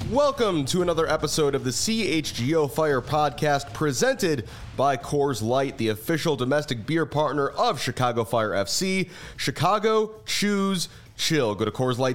Welcome to another episode of the CHGO Fire Podcast presented by Coors Light, the official domestic beer partner of Chicago Fire FC. Chicago, choose chill. Go to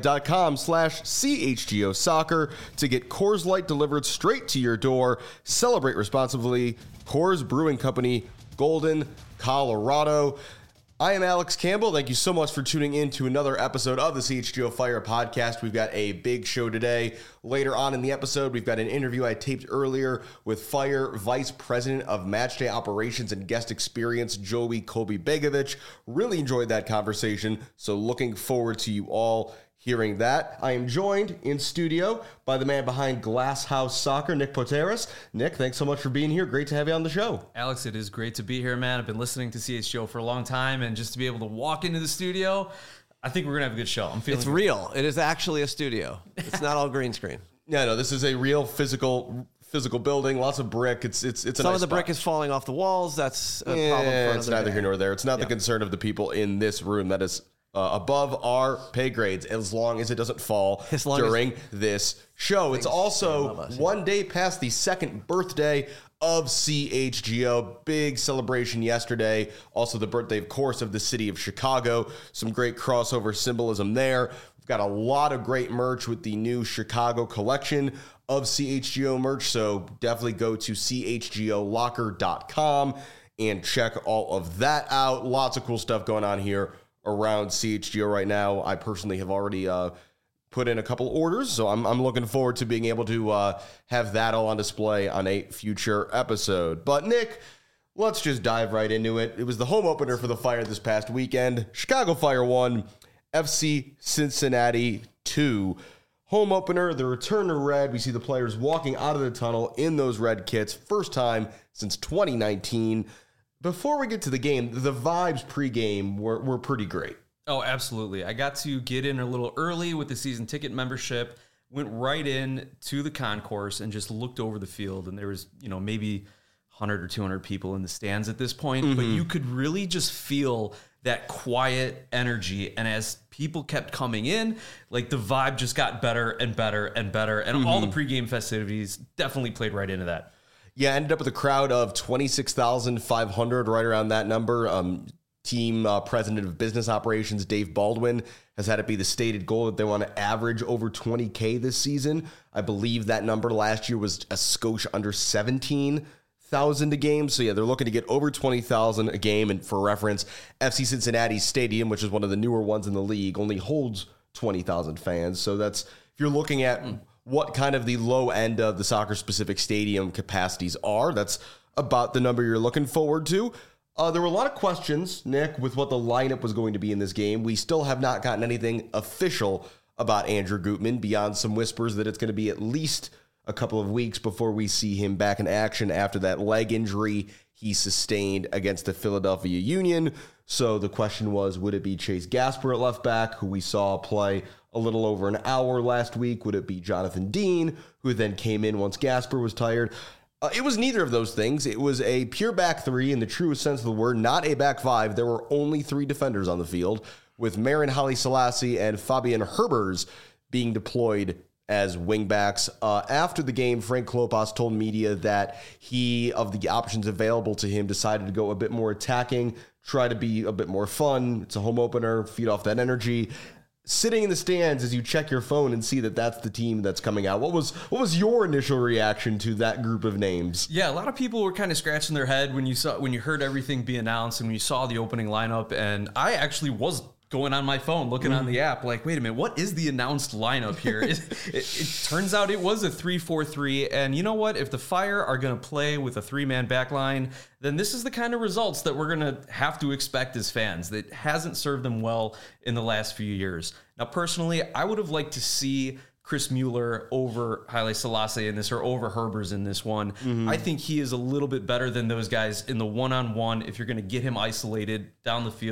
CoorsLight.com/CHGO Soccer to get Coors Light delivered straight to your door. Celebrate responsibly. Coors Brewing Company, Golden, Colorado. I am Alex Campbell. Thank you so much for tuning in to another episode of the CHGO Fire Podcast. We've got a big show today. Later on in the episode, we've got an interview I taped earlier with Fire Vice President of Matchday Operations and Guest Experience, Joey Kobe-Begovic. Really enjoyed that conversation, so looking forward to you all hearing that. I am joined in studio by the man behind Glass House Soccer, Nick Poteris. Nick, thanks so much for being here. Great to have you on the show. Alex, it is great to be here, man. I've been listening to CHGO for a long time, and just to be able to walk into the studio, I think we're going to have a good show. I'm feeling It's real. It is actually a studio. It's not all green screen. Yeah, no, this is a real physical building, lots of brick. It's a Some nice of the spot. brick is falling off the walls. That's a problem for another It's neither day. here nor there. It's not the concern of the people in this room. That is above our pay grades, as long as it doesn't fall during this show. It's also one day past the second birthday of CHGO. Big celebration yesterday. Also the birthday, of course, of the city of Chicago. Some great crossover symbolism there. We've got a lot of great merch with the new Chicago collection of CHGO merch, so definitely go to chgolocker.com and check all of that out. Lots of cool stuff going on here around CHGO right now. I personally have already put in a couple orders, so I'm looking forward to being able to have that all on display on a future episode. But Nick, let's just dive right into it. It was the home opener for the Fire this past weekend. Chicago Fire 1, FC Cincinnati 2. Home opener, the return to red. We see the players walking out of the tunnel in those red kits. First time since 2019. Before we get to the game, the vibes pregame were pretty great. Oh, absolutely. I got to get in a little early with the season ticket membership, went right in to the concourse and just looked over the field. And there was, maybe 100 or 200 people in the stands at this point, but you could really just feel that quiet energy. And as people kept coming in, like the vibe just got better and better and better. And all the pregame festivities definitely played right into that. Yeah, ended up with a crowd of 26,500, right around that number. Team president of business operations, Dave Baldwin, has had it be the stated goal that they want to average over 20K this season. I believe that number last year was a skosh under 17,000 a game. So yeah, they're looking to get over 20,000 a game. And for reference, FC Cincinnati's stadium, which is one of the newer ones in the league, only holds 20,000 fans. So that's, if you're looking at what kind of the low end of the soccer-specific stadium capacities are, that's about the number you're looking forward to. There were a lot of questions, Nick, with what the lineup was going to be in this game. We still have not gotten anything official about Andrew Gutman beyond some whispers that it's going to be at least a couple of weeks before we see him back in action after that leg injury he sustained against the Philadelphia Union. So the question was, would it be Chase Gasper at left back, who we saw play a little over an hour last week? Would it be Jonathan Dean, who then came in once Gasper was tired? It was neither of those things. It was a pure back three in the truest sense of the word, not a back five. There were only three defenders on the field, with Marin Haile Selassie and Fabian Herbers being deployed as wingbacks. After the game, Frank Klopas told media that he, of the options available to him, decided to go a bit more attacking, try to be a bit more fun. It's a home opener, feed off that energy. Sitting in the stands as you check your phone and see that that's the team that's coming out, what was your initial reaction to that group of names? Yeah, a lot of people were kind of scratching their head when you heard everything be announced and when you saw the opening lineup. And I actually was going on my phone, looking on the app, like, wait a minute, what is the announced lineup here? It turns out it was a 3-4-3, and you know what? If the Fire are going to play with a three-man back line, then this is the kind of results that we're going to have to expect as fans. That hasn't served them well in the last few years. Now, personally, I would have liked to see Chris Mueller over Haile Selassie in this, or over Herbers in this one. I think he is a little bit better than those guys in the one-on-one. If you're going to get him isolated down the field,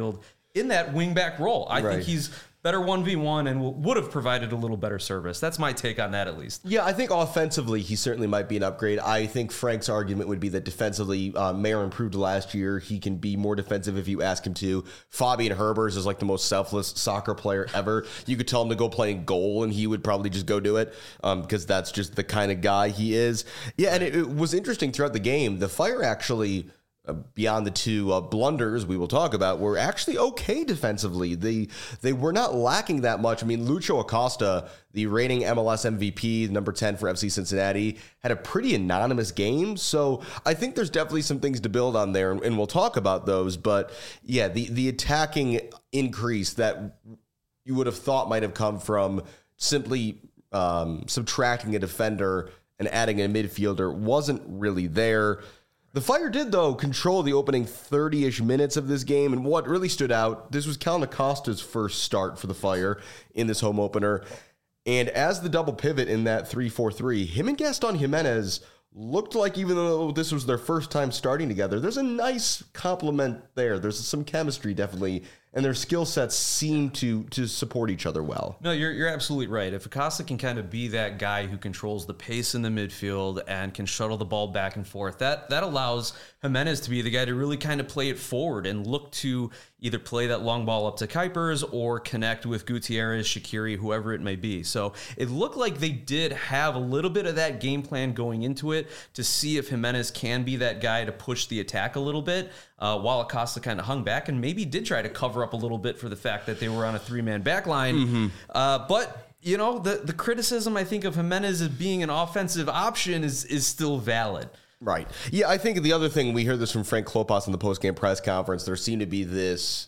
in that wingback role. I Right. think he's better 1v1 and would have provided a little better service. That's my take on that, at least. Yeah, I think offensively, he certainly might be an upgrade. I think Frank's argument would be that defensively, Mayer improved last year. He can be more defensive if you ask him to. Fabian Herbers is like the most selfless soccer player ever. You could tell him to go play in goal, and he would probably just go do it because that's just the kind of guy he is. Yeah, and it was interesting throughout the game. The Fire actually... beyond the two blunders we will talk about, were actually okay defensively. They were not lacking that much. I mean, Lucho Acosta, the reigning MLS MVP, number 10 for FC Cincinnati, had a pretty anonymous game. So I think there's definitely some things to build on there, and we'll talk about those. But yeah, the attacking increase that you would have thought might have come from simply subtracting a defender and adding a midfielder wasn't really there. The Fire did, though, control the opening 30-ish minutes of this game, and what really stood out, this was Kellen Acosta's first start for the Fire in this home opener, and as the double pivot in that 3-4-3, him and Gaston Jimenez looked like, even though this was their first time starting together, there's a nice complement there. There's some chemistry, definitely, and their skill sets seem to support each other well. No, you're absolutely right. If Acosta can kind of be that guy who controls the pace in the midfield and can shuttle the ball back and forth, that allows Jimenez to be the guy to really kind of play it forward and look to either play that long ball up to Kuipers or connect with Gutierrez, Shaqiri, whoever it may be. So it looked like they did have a little bit of that game plan going into it to see if Jimenez can be that guy to push the attack a little bit, while Acosta kind of hung back and maybe did try to cover up a little bit for the fact that they were on a three-man back line. But you know, the criticism, I think, of Jimenez as being an offensive option is still valid. Right. Yeah, I think the other thing, we heard this from Frank Klopas in the post-game press conference, there seemed to be this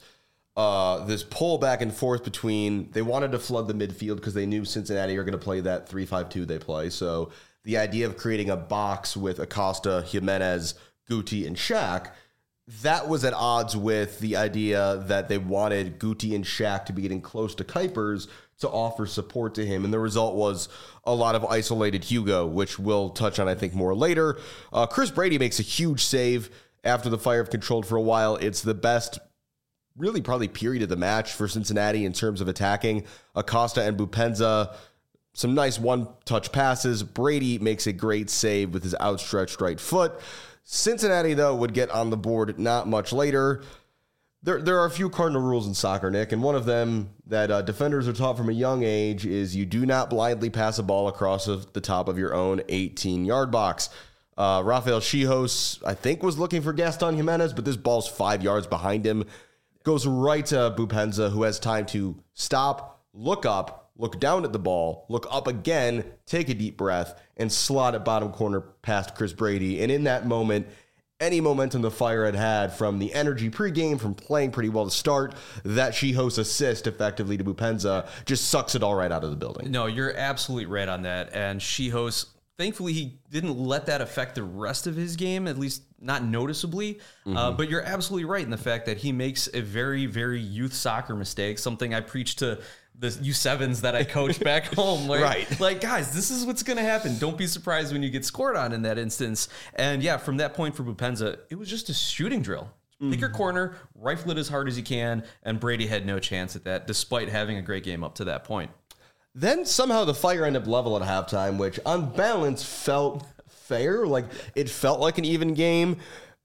pull back and forth between, they wanted to flood the midfield because they knew Cincinnati are going to play that 3-5-2 they play. So the idea of creating a box with Acosta, Jimenez, Guti, and Shaq, that was at odds with the idea that they wanted Guti and Shaq to be getting close to Kuipers to offer support to him. And the result was a lot of isolated Hugo, which we'll touch on, I think, more later. Chris Brady makes a huge save after the Fire have controlled for a while. It's the best, really probably period of the match for Cincinnati in terms of attacking. Acosta and Boupendza, some nice one-touch passes. Brady makes a great save with his outstretched right foot. Cincinnati, though, would get on the board not much later. There are a few cardinal rules in soccer, Nick, and one of them that defenders are taught from a young age is you do not blindly pass a ball across the top of your own 18-yard box. Rafael Chihos, I think, was looking for Gaston Jimenez, but this ball's 5 yards behind him. Goes right to Boupendza, who has time to stop, look up, look down at the ball, look up again, take a deep breath, and slot it bottom corner past Chris Brady. And in that moment, any momentum the Fire had from the energy pregame, from playing pretty well to start, that Chihos assist effectively to Boupendza just sucks it all right out of the building. No, you're absolutely right on that. And Chihos, thankfully, he didn't let that affect the rest of his game, at least not noticeably. But you're absolutely right in the fact that he makes a very, very youth soccer mistake, something I preach to the U7s that I coach back home. Like, like, guys, this is what's going to happen. Don't be surprised when you get scored on in that instance. And yeah, from that point for Boupendza, it was just a shooting drill. Pick your corner, rifle it as hard as you can, and Brady had no chance at that, despite having a great game up to that point. Then somehow the Fire end up level at halftime, which on balance felt fair. Like, it felt like an even game.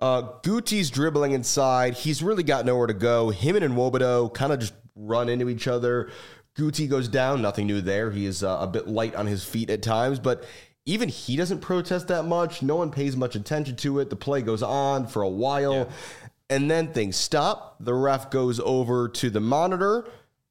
Guti's dribbling inside. He's really got nowhere to go. Him and Nwobodo kind of just run into each other. Guti goes down. Nothing new there. He is a bit light on his feet at times, but even he doesn't protest that much. No one pays much attention to it. The play goes on for a while, and then things stop. The ref goes over to the monitor.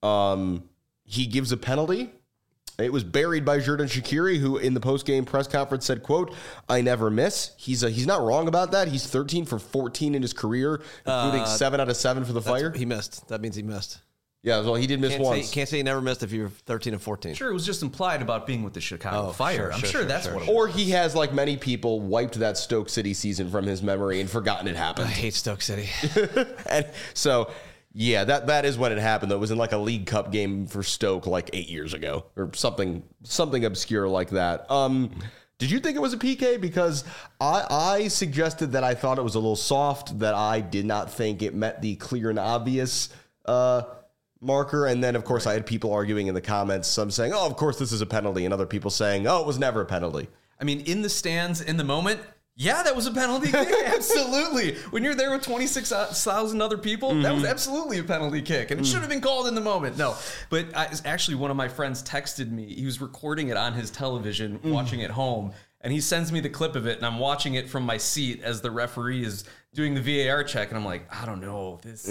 He gives a penalty. It was buried by Xherdan Shaqiri, who in the post-game press conference said, quote, "I never miss." He's not wrong about that. He's 13 for 14 in his career, including 7 out of 7 for the Fire. He missed. That means he missed. Yeah, well, he did miss once. Can't say he never missed if you're 13 and 14. Sure, it was just implied about being with the Chicago Fire. I'm sure that's what it was. Or he has, like many people, wiped that Stoke City season from his memory and forgotten it happened. I hate Stoke City. And so, yeah, that is when it happened, though. It was in like a League Cup game for Stoke like 8 years ago or something obscure like that. Did you think it was a PK? Because I suggested that I thought it was a little soft, that I did not think it met the clear and obvious marker. And then, of course, I had people arguing in the comments, some saying, oh, of course, this is a penalty, and other people saying, oh, it was never a penalty. I mean, in the stands, in the moment, yeah, that was a penalty kick. Absolutely. When you're there with 26,000 other people, that was absolutely a penalty kick. And it should have been called in the moment. No. But actually, one of my friends texted me. He was recording it on his television, watching it home. And he sends me the clip of it. And I'm watching it from my seat as the referee is doing the VAR check. And I'm like, I don't know. This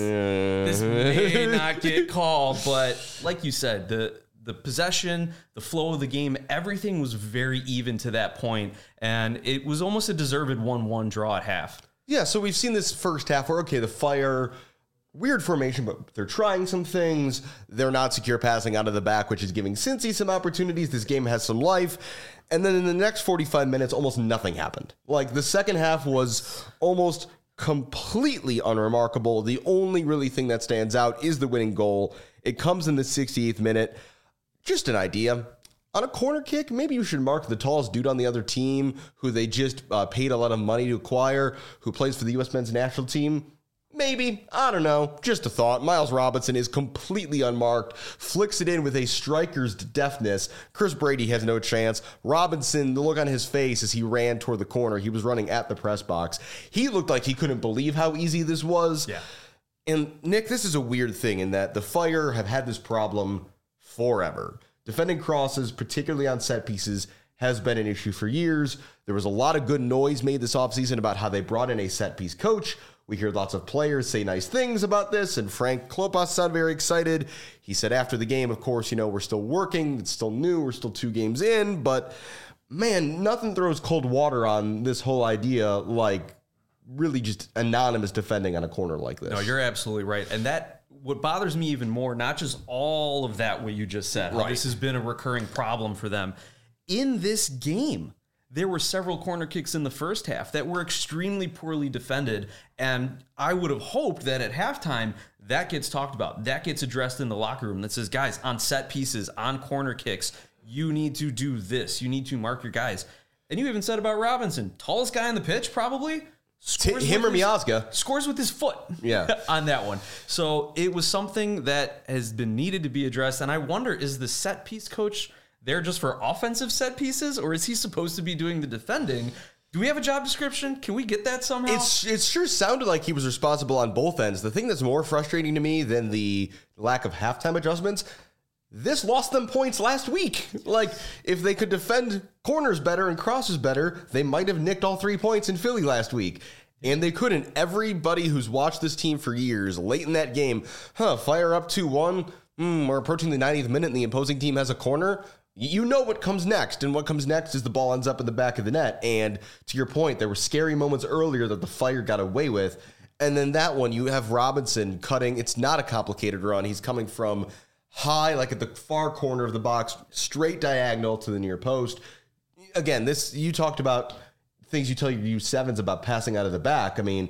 may not get called. But like you said, the possession, the flow of the game, everything was very even to that point, and it was almost a deserved 1-1 draw at half. Yeah, so we've seen this first half where, okay, the Fire, weird formation, but they're trying some things. They're not secure passing out of the back, which is giving Cincy some opportunities. This game has some life. And then in the next 45 minutes, almost nothing happened. Like, the second half was almost completely unremarkable. The only really thing that stands out is the winning goal. It comes in the 68th minute. Just an idea. On a corner kick, maybe you should mark the tallest dude on the other team who they just paid a lot of money to acquire, who plays for the U.S. men's national team. Maybe. I don't know. Just a thought. Miles Robinson is completely unmarked, flicks it in with a striker's deftness. Chris Brady has no chance. Robinson, the look on his face as he ran toward the corner, he was running at the press box. He looked like he couldn't believe how easy this was. Yeah. And, Nick, this is a weird thing in that the Fire have had this problem forever. Defending crosses, particularly on set pieces, has been an issue for years. There was a lot of good noise made this offseason about how they brought in a set piece coach. We hear lots of players say nice things about this, and Frank Klopas sounded very excited. He said after the game, of course, we're still working. It's still new. We're still 2 games in. But, man, nothing throws cold water on this whole idea like really just anonymous defending on a corner like this. No, you're absolutely right. And what bothers me even more, not just all of that, what you just said, how this has been a recurring problem for them. In this game, there were several corner kicks in the first half that were extremely poorly defended, and I would have hoped that at halftime, that gets talked about, that gets addressed in the locker room, that says, guys, on set pieces, on corner kicks, you need to do this. You need to mark your guys. And you even said about Robinson, tallest guy on the pitch, probably. Him or Miazga. Scores with his foot on that one. So it was something that has been needed to be addressed. And I wonder, is the set piece coach there just for offensive set pieces, or is he supposed to be doing the defending? Do we have a job description? Can we get that somehow? It sure sounded like he was responsible on both ends. The thing that's more frustrating to me than the lack of halftime adjustments, this lost them points last week. Like, if they could defend corners better and crosses better, they might have nicked all 3 points in Philly last week. And they couldn't. Everybody who's watched this team for years, late in that game, Fire up 2-1. We're approaching the 90th minute and the opposing team has a corner. You know what comes next. And what comes next is the ball ends up in the back of the net. And to your point, there were scary moments earlier that the Fire got away with. And then that one, you have Robinson cutting. It's not a complicated run. He's coming from high, like at the far corner of the box, straight diagonal to the near post. Again, you talked about things you tell your U7s about passing out of the back. I mean,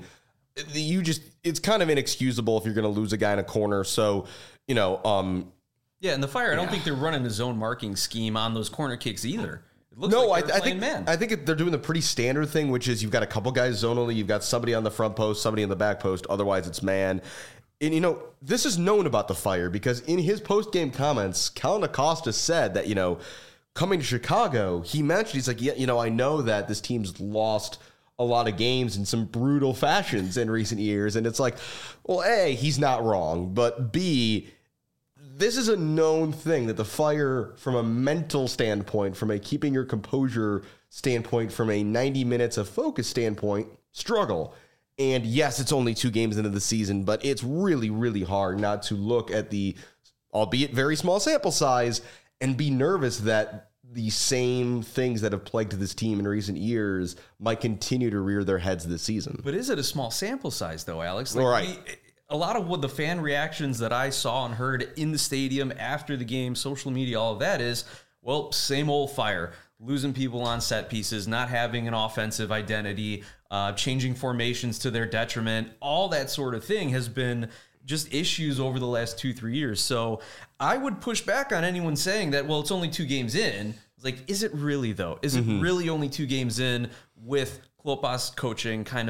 it's kind of inexcusable if you're going to lose a guy in a corner. So, yeah, and the Fire, I don't think they're running a zone marking scheme on those corner kicks either. It looks like I think they're doing the pretty standard thing, which is you've got a couple guys zonally, you've got somebody on the front post, somebody in the back post, otherwise it's man. And, this is known about the Fire because in his post-game comments, Colin Acosta said that, coming to Chicago, he mentioned, he's like, I know that this team's lost a lot of games in some brutal fashions in recent years. And it's like, well, A, he's not wrong, but B, this is a known thing that the Fire, from a mental standpoint, from a keeping your composure standpoint, from a 90 minutes of focus standpoint, struggle. And yes, it's only 2 games into the season, but it's really, really hard not to look at the, albeit very small sample size, and be nervous that the same things that have plagued this team in recent years might continue to rear their heads this season. But is it a small sample size, though, Alex? A lot of what the fan reactions that I saw and heard in the stadium after the game, social media, all of that is, well, same old Fire. Losing people on set pieces, not having an offensive identity, changing formations to their detriment, all that sort of thing has been just issues over the last 2-3 years. So I would push back on anyone saying that, well, it's only 2 games in. It's like, is it really, though? Is it really only 2 games in with Klopas coaching kind of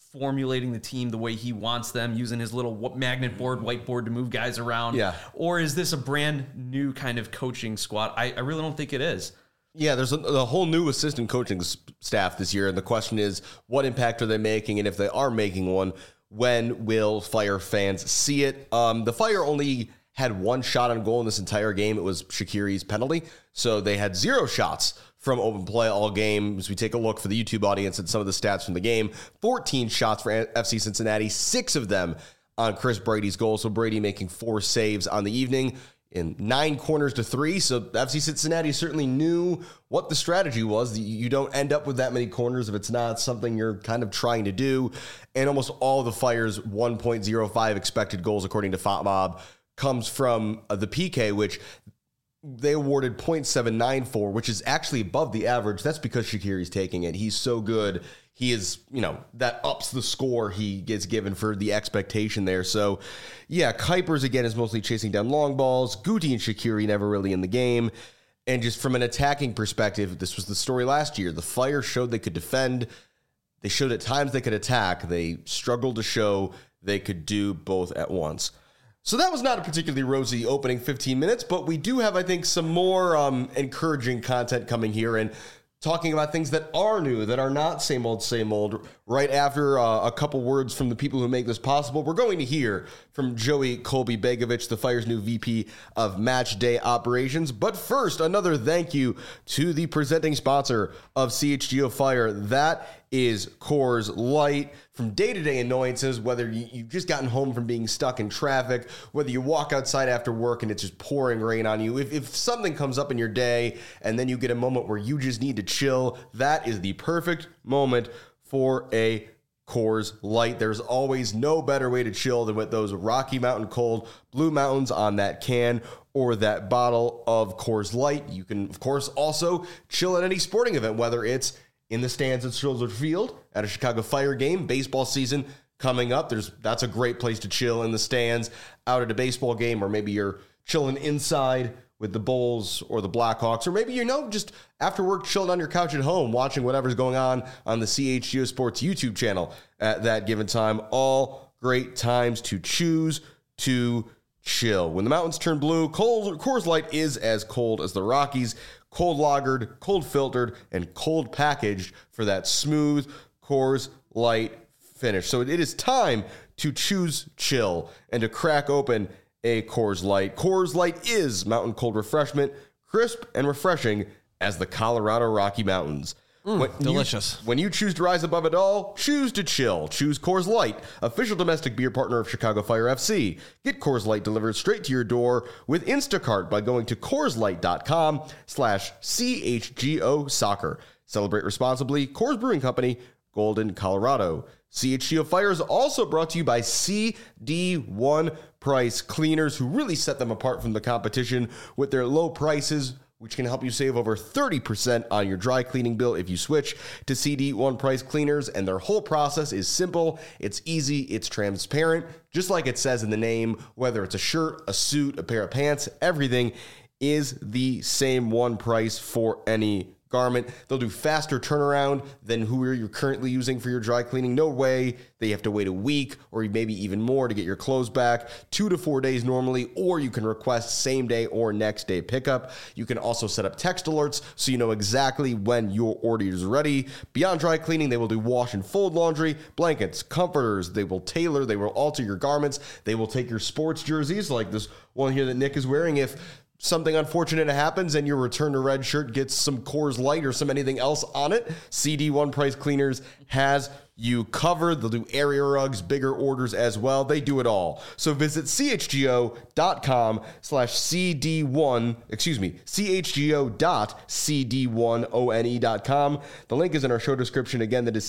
formulating the team the way he wants them, using his little magnet board, whiteboard to move guys around? Yeah. Or is this a brand new kind of coaching squad? I really don't think it is. Yeah, there's a whole new assistant coaching staff this year, and the question is, what impact are they making? And if they are making one, when will Fire fans see it? The Fire only had one shot on goal in this entire game. It was Shaqiri's penalty. So they had 0 shots from open play all game. As we take a look for the YouTube audience at some of the stats from the game, 14 shots for FC Cincinnati, 6 of them on Chris Brady's goal. So Brady making 4 saves on the evening in 9 corners to 3. So FC Cincinnati certainly knew what the strategy was. You don't end up with that many corners if it's not something you're kind of trying to do. And almost all the Fire's 1.05 expected goals, according to FotMob, comes from the PK, which they awarded 0.79 for, which is actually above the average. That's because Shaqiri's taking it. He's so good. He is, that ups the score he gets given for the expectation there. So, yeah, Kuipers, again, is mostly chasing down long balls. Guti and Shaqiri never really in the game. And just from an attacking perspective, this was the story last year. The Fire showed they could defend. They showed at times they could attack. They struggled to show they could do both at once. So that was not a particularly rosy opening 15 minutes, but we do have, I think, some more encouraging content coming here and talking about things that are new, that are not same old, right after a couple words from the people who make this possible. We're going to hear from Joey Colby-Begovic, the Fire's new VP of Match Day Operations. But first, another thank you to the presenting sponsor of CHGO Fire. That is Coors Light. From day-to-day annoyances, whether you've just gotten home from being stuck in traffic, whether you walk outside after work and it's just pouring rain on you, if something comes up in your day and then you get a moment where you just need to chill, that is the perfect moment for a Coors Light. There's always no better way to chill than with those Rocky Mountain Cold Blue Mountains on that can or that bottle of Coors Light. You can, of course, also chill at any sporting event, whether it's in the stands at Soldier Field, at a Chicago Fire game, baseball season coming up. That's a great place to chill, in the stands, out at a baseball game, or maybe you're chilling inside with the Bulls or the Blackhawks, or maybe just after work chilling on your couch at home watching whatever's going on the CHGO Sports YouTube channel at that given time. All great times to choose to chill. When the mountains turn blue, Coors Light is as cold as the Rockies. Cold lagered, cold filtered, and cold packaged for that smooth Coors Light finish. So it is time to choose chill and to crack open a Coors Light. Coors Light is mountain cold refreshment, crisp and refreshing as the Colorado Rocky Mountains. Delicious. When you choose to rise above it all, choose to chill. Choose Coors Light, official domestic beer partner of Chicago Fire FC. Get Coors Light delivered straight to your door with Instacart by going to CoorsLight.com/CHGO Soccer. Celebrate responsibly. Coors Brewing Company, Golden, Colorado. CHGO Fire is also brought to you by CD1 Price Cleaners, who really set them apart from the competition with their low prices, which can help you save over 30% on your dry cleaning bill if you switch to CD1 Price Cleaners. And their whole process is simple, it's easy, it's transparent, just like it says in the name. Whether it's a shirt, a suit, a pair of pants, everything is the same one price for any garment. They'll do faster turnaround than who you're currently using for your dry cleaning. No way that you have to wait a week or maybe even more to get your clothes back. 2 to 4 days normally, or you can request same day or next day pickup. You can also set up text alerts so you know exactly when your order is ready. Beyond dry cleaning, they will do wash and fold laundry, blankets, comforters. They will tailor, they will alter your garments. They will take your sports jerseys like this one here that Nick is wearing. If something unfortunate happens and your return to red shirt gets some Coors Light or some anything else on it, CD1 Price Cleaners has you covered. They'll do area rugs, bigger orders as well. They do it all. So visit chgo.com/CD1, chgo.cd1one.com. The link is in our show description. Again, that is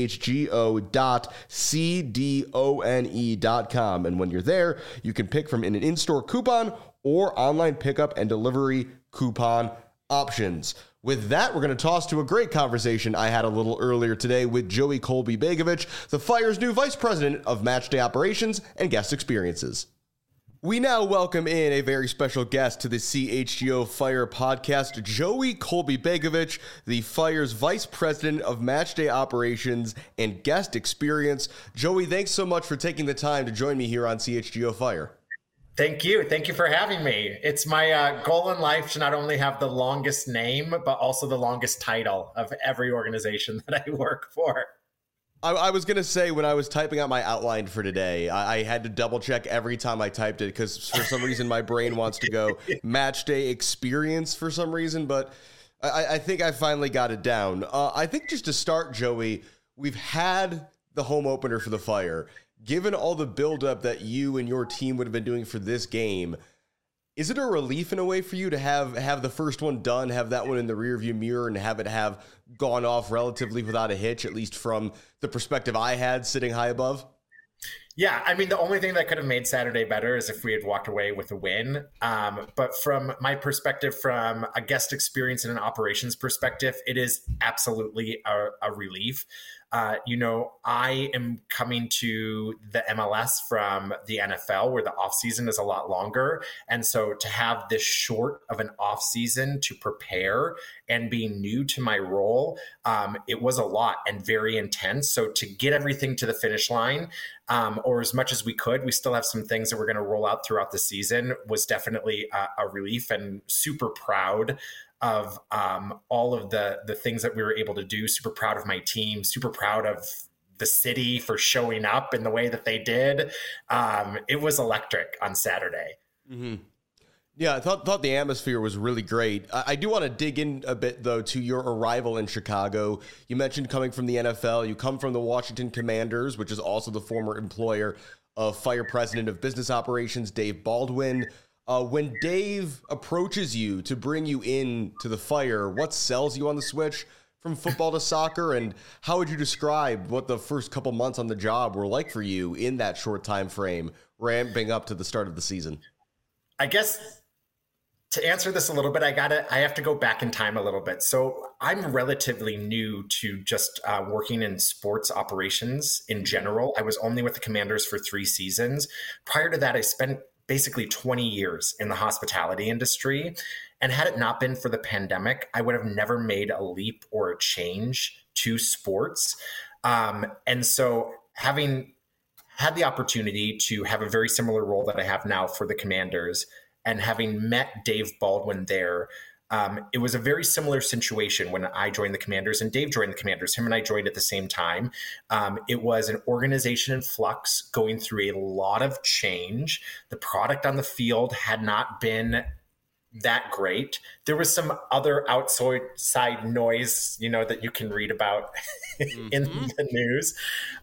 chgo.cdone.com. And when you're there, you can pick from an in-store coupon or online pickup and delivery coupon options. With that, we're going to toss to a great conversation I had a little earlier today with Joey Colby-Begovic, the Fire's new Vice President of Matchday Operations and Guest Experiences. We now welcome in a very special guest to the CHGO Fire podcast, Joey Colby Begovic, the Fire's Vice President of Matchday Operations and Guest Experience. Joey, thanks so much for taking the time to join me here on CHGO Fire. Thank you. Thank you for having me. It's my goal in life to not only have the longest name, but also the longest title of every organization that I work for. I was going to say, when I was typing out my outline for today, I had to double check every time I typed it because for some reason my brain wants to go match day experience for some reason, but I think I finally got it down. I think just to start, Joey, we've had the home opener for the Fire. Given all the buildup that you and your team would have been doing for this game, is it a relief in a way for you to have the first one done, have that one in the rearview mirror, and have it have gone off relatively without a hitch, at least from the perspective I had sitting high above? Yeah, I mean, the only thing that could have made Saturday better is if we had walked away with a win. But from my perspective, from a guest experience and an operations perspective, it is absolutely a relief. I am coming to the MLS from the NFL where the offseason is a lot longer. And so to have this short of an offseason to prepare and being new to my role, it was a lot and very intense. So to get everything to the finish line, or as much as we could, we still have some things that we're going to roll out throughout the season, was definitely a relief, and super proud of all of the things that we were able to do. Super proud of my team, super proud of the city for showing up in the way that they did. It was electric on Saturday. Mm-hmm. Yeah, I thought the atmosphere was really great. I do want to dig in a bit, though, to your arrival in Chicago. You mentioned coming from the NFL. You come from the Washington Commanders, which is also the former employer of Fire President of Business Operations, Dave Baldwin. When Dave approaches you to bring you in to the Fire, what sells you on the switch from football to soccer, and how would you describe what the first couple months on the job were like for you in that short time frame, ramping up to the start of the season? I guess to answer this a little bit, I have to go back in time a little bit. So I'm relatively new to just working in sports operations in general. I was only with the Commanders for 3 seasons. Prior to that, I spent basically 20 years in the hospitality industry. And had it not been for the pandemic, I would have never made a leap or a change to sports. And so having had the opportunity to have a very similar role that I have now for the Commanders, and having met Dave Baldwin there, it was a very similar situation when I joined the Commanders and Dave joined the Commanders. Him and I joined at the same time. It was an organization in flux, going through a lot of change. The product on the field had not been that great. There was some other outside noise, that you can read about in the news.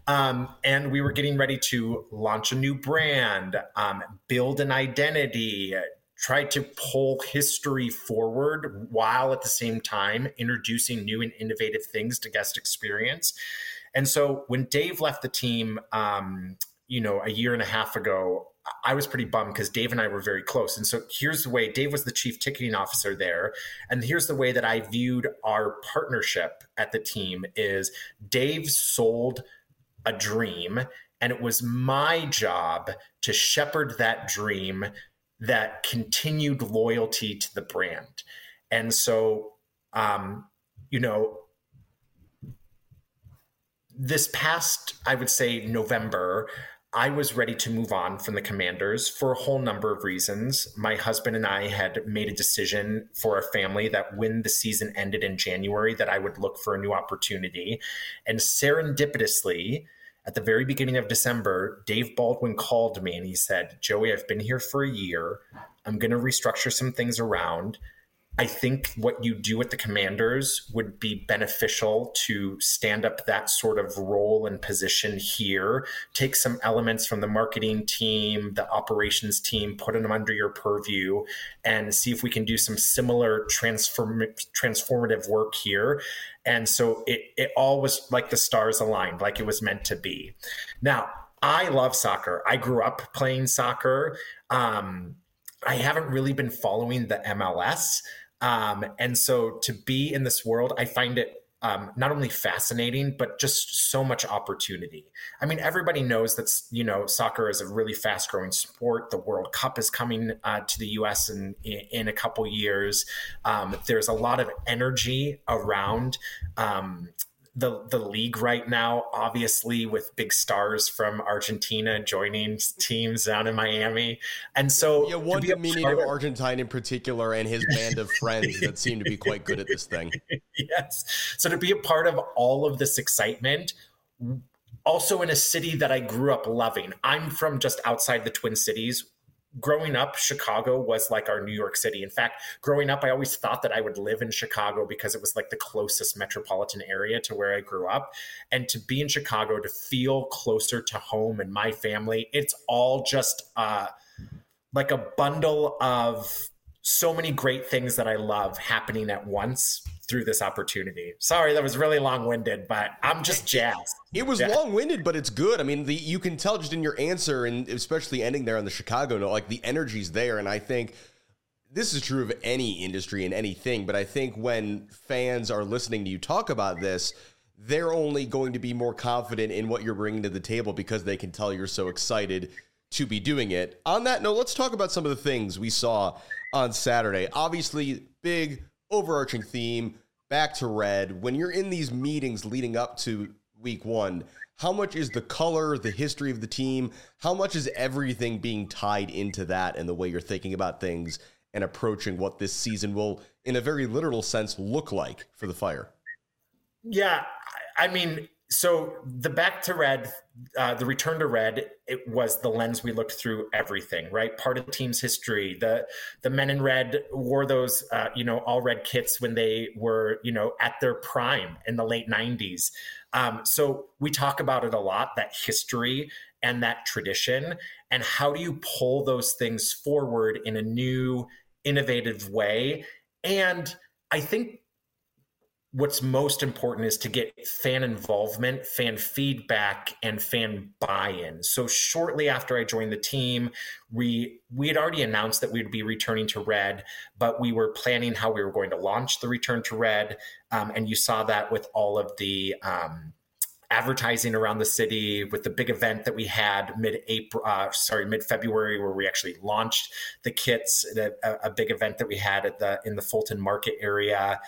And we were getting ready to launch a new brand, build an identity, try to pull history forward while at the same time introducing new and innovative things to guest experience. And so when Dave left the team, a year and a half ago, I was pretty bummed because Dave and I were very close. And so here's the way: Dave was the chief ticketing officer there. And here's the way that I viewed our partnership at the team is Dave sold a dream, and it was my job to shepherd that dream that continued loyalty to the brand. And so, this past, I would say, November, I was ready to move on from the Commanders for a whole number of reasons. My husband and I had made a decision for our family that when the season ended in January, that I would look for a new opportunity. And serendipitously, at the very beginning of December, Dave Baldwin called me and he said, "Joey, I've been here for a year. I'm going to restructure some things around. I think what you do at the Commanders would be beneficial to stand up that sort of role and position here. Take some elements from the marketing team, the operations team, put them under your purview, and see if we can do some similar transformative work here." And so it all was like the stars aligned, like it was meant to be. Now, I love soccer. I grew up playing soccer. I haven't really been following the MLS. And so to be in this world, I find it not only fascinating, but just so much opportunity. I mean, everybody knows that, soccer is a really fast growing sport. The World Cup is coming to the US in a couple years. There's a lot of energy around the league right now, obviously with big stars from Argentina joining teams down in Miami. And so one Dominican of Argentine in particular and his band of friends that seem to be quite good at this thing. Yes. So to be a part of all of this excitement, also in a city that I grew up loving. I'm from just outside the Twin Cities. Growing up, Chicago was like our New York City. In fact, growing up, I always thought that I would live in Chicago because it was like the closest metropolitan area to where I grew up. And to be in Chicago, to feel closer to home and my family, it's all just like a bundle of so many great things that I love happening at once through this opportunity. Sorry, that was really long-winded, but I'm just jazzed. It was long-winded, but it's good. I mean, you can tell just in your answer, and especially ending there on the Chicago note, like the energy's there. And I think this is true of any industry and anything, but I think when fans are listening to you talk about this, they're only going to be more confident in what you're bringing to the table because they can tell you're so excited to be doing it. On that note, let's talk about some of the things we saw on Saturday. Obviously, big overarching theme, back to red. When you're in these meetings leading up to week one, how much is the color, the history of the team, how much is everything being tied into that and the way you're thinking about things and approaching what this season will, in a very literal sense, look like for the Fire? Yeah, I mean, so the back to red, the return to red, it was the lens we looked through everything, right? Part of the team's history. The men in red wore those, all red kits when they were, at their prime in the late 90s. So we talk about it a lot, that history and that tradition, and how do you pull those things forward in a new, innovative way? And I think what's most important is to get fan involvement, fan feedback, and fan buy-in. So shortly after I joined the team, we had already announced that we'd be returning to red, but we were planning how we were going to launch the return to red. And you saw that with all of the advertising around the city, with the big event that we had mid-February, where we actually launched the kits, a big event that we had in the Fulton Market area.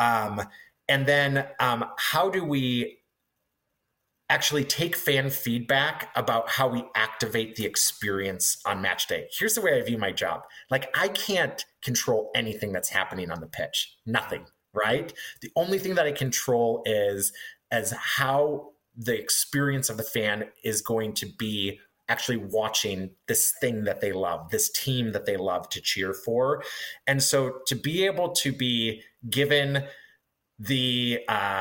And then how do we actually take fan feedback about how we activate the experience on match day? Here's the way I view my job. Like, I can't control anything that's happening on the pitch. Nothing, right? The only thing that I control is how the experience of the fan is going to be actually watching this thing that they love, this team that they love to cheer for. And so to be able to be given the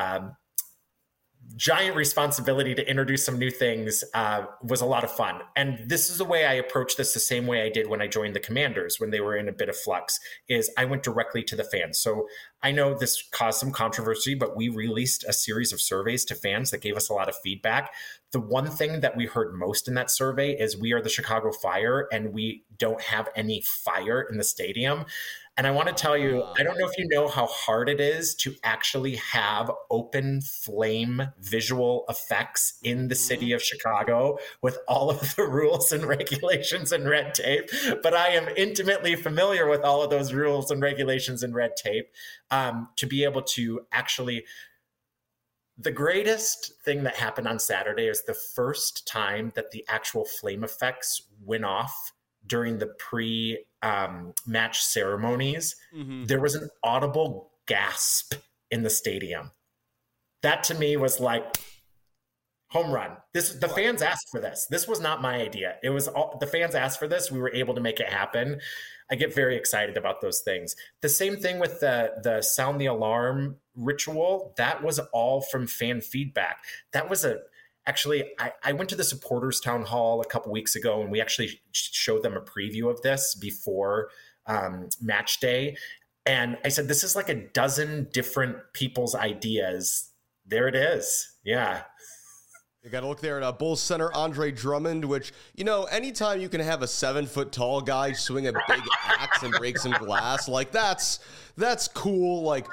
giant responsibility to introduce some new things was a lot of fun. And this is the way I approach this, the same way I did when I joined the Commanders when they were in a bit of flux, is I went directly to the fans. So I know this caused some controversy, but we released a series of surveys to fans that gave us a lot of feedback. The one thing that we heard most in that survey is we are the Chicago Fire and we don't have any fire in the stadium. And I want to tell you, I don't know if you know how hard it is to actually have open flame visual effects in the city of Chicago with all of the rules and regulations and red tape. But I am intimately familiar with all of those rules and regulations and red tape to be able to actually... The greatest thing that happened on Saturday is the first time that the actual flame effects went off during the pre-match ceremonies. Mm-hmm. There was an audible gasp in the stadium. That to me was like home run. The fans asked for this. This was not my idea. It was the fans asked for this. We were able to make it happen. I get very excited about those things. The same thing with the sound the alarm ritual. That was all from fan feedback. That was Actually, I went to the supporters town hall a couple weeks ago, and we actually showed them a preview of this before match day. And I said, this is like a dozen different people's ideas. There it is. Yeah. You got to look there at Bulls center Andre Drummond, which, anytime you can have a 7-foot tall guy swing a big axe and break some glass, like that's cool. Like,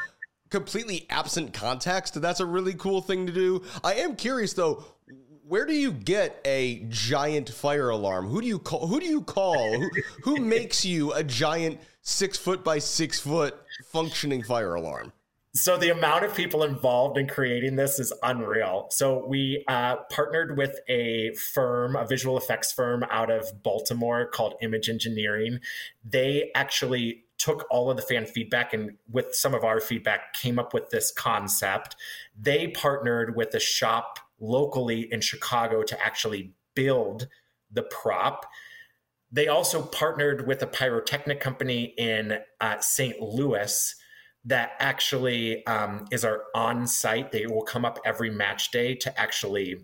completely absent context, that's a really cool thing to do. I am curious though, where do you get a giant fire alarm? Who do you call? Who makes you a giant 6 foot by 6 foot functioning fire alarm? So the amount of people involved in creating this is unreal. So we partnered with a visual effects firm out of Baltimore called Image Engineering. They actually took all of the fan feedback and with some of our feedback came up with this concept. They partnered with a shop locally in Chicago to actually build the prop. They also partnered with a pyrotechnic company in St. Louis that actually is our on-site. They will come up every match day to actually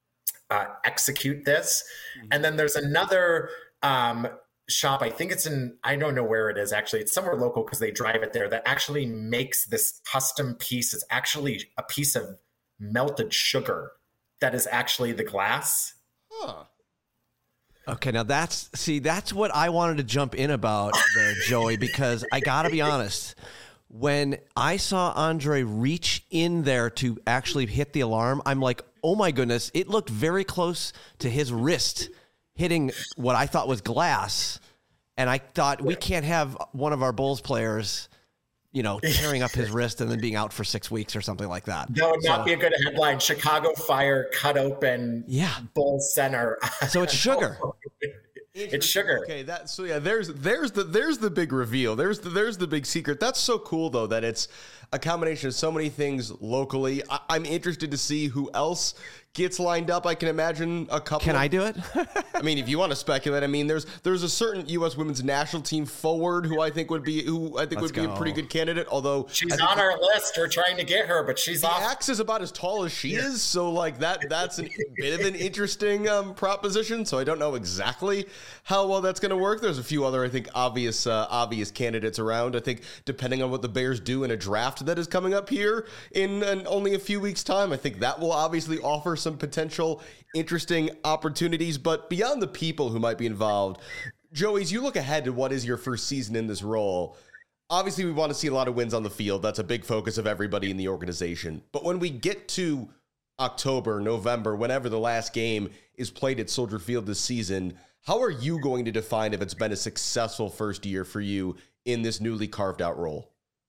execute this. Mm-hmm. And then there's another shop, I think I don't know where it is actually. It's somewhere local because they drive it there, that actually makes this custom piece. It's actually a piece of melted sugar that is actually the glass. Huh. Okay, now that's what I wanted to jump in about there, Joey, because I got to be honest. When I saw Andre reach in there to actually hit the alarm, I'm like, oh my goodness, it looked very close to his wrist hitting what I thought was glass. And I thought, we can't have one of our Bulls players, tearing up his wrist and then being out for 6 weeks or something like that. That would not be a good headline. Chicago Fire cut open Bulls center. So it's sugar. It's sugar. Okay, there's the big reveal. There's the big secret. That's so cool though that it's a combination of so many things locally. I'm interested to see who else gets lined up. I can imagine a couple. Can I do it? I mean, if you want to speculate, I mean, there's a certain U.S. women's national team forward who I think would be a pretty good candidate. Although she's on our list, we're trying to get her, but she's off. The axe is about as tall as she is, so like that's a bit of an interesting proposition. So I don't know exactly how well that's going to work. There's a few other, I think, obvious candidates around. I think depending on what the Bears do in a draft that is coming up here in only a few weeks' time, I think that will obviously offer some potential interesting opportunities. But beyond the people who might be involved, Joey, as you look ahead to what is your first season in this role, obviously we want to see a lot of wins on the field. That's a big focus of everybody in the organization. But when we get to October, November, whenever the last game is played at Soldier Field this season, how are you going to define if it's been a successful first year for you in this newly carved out role?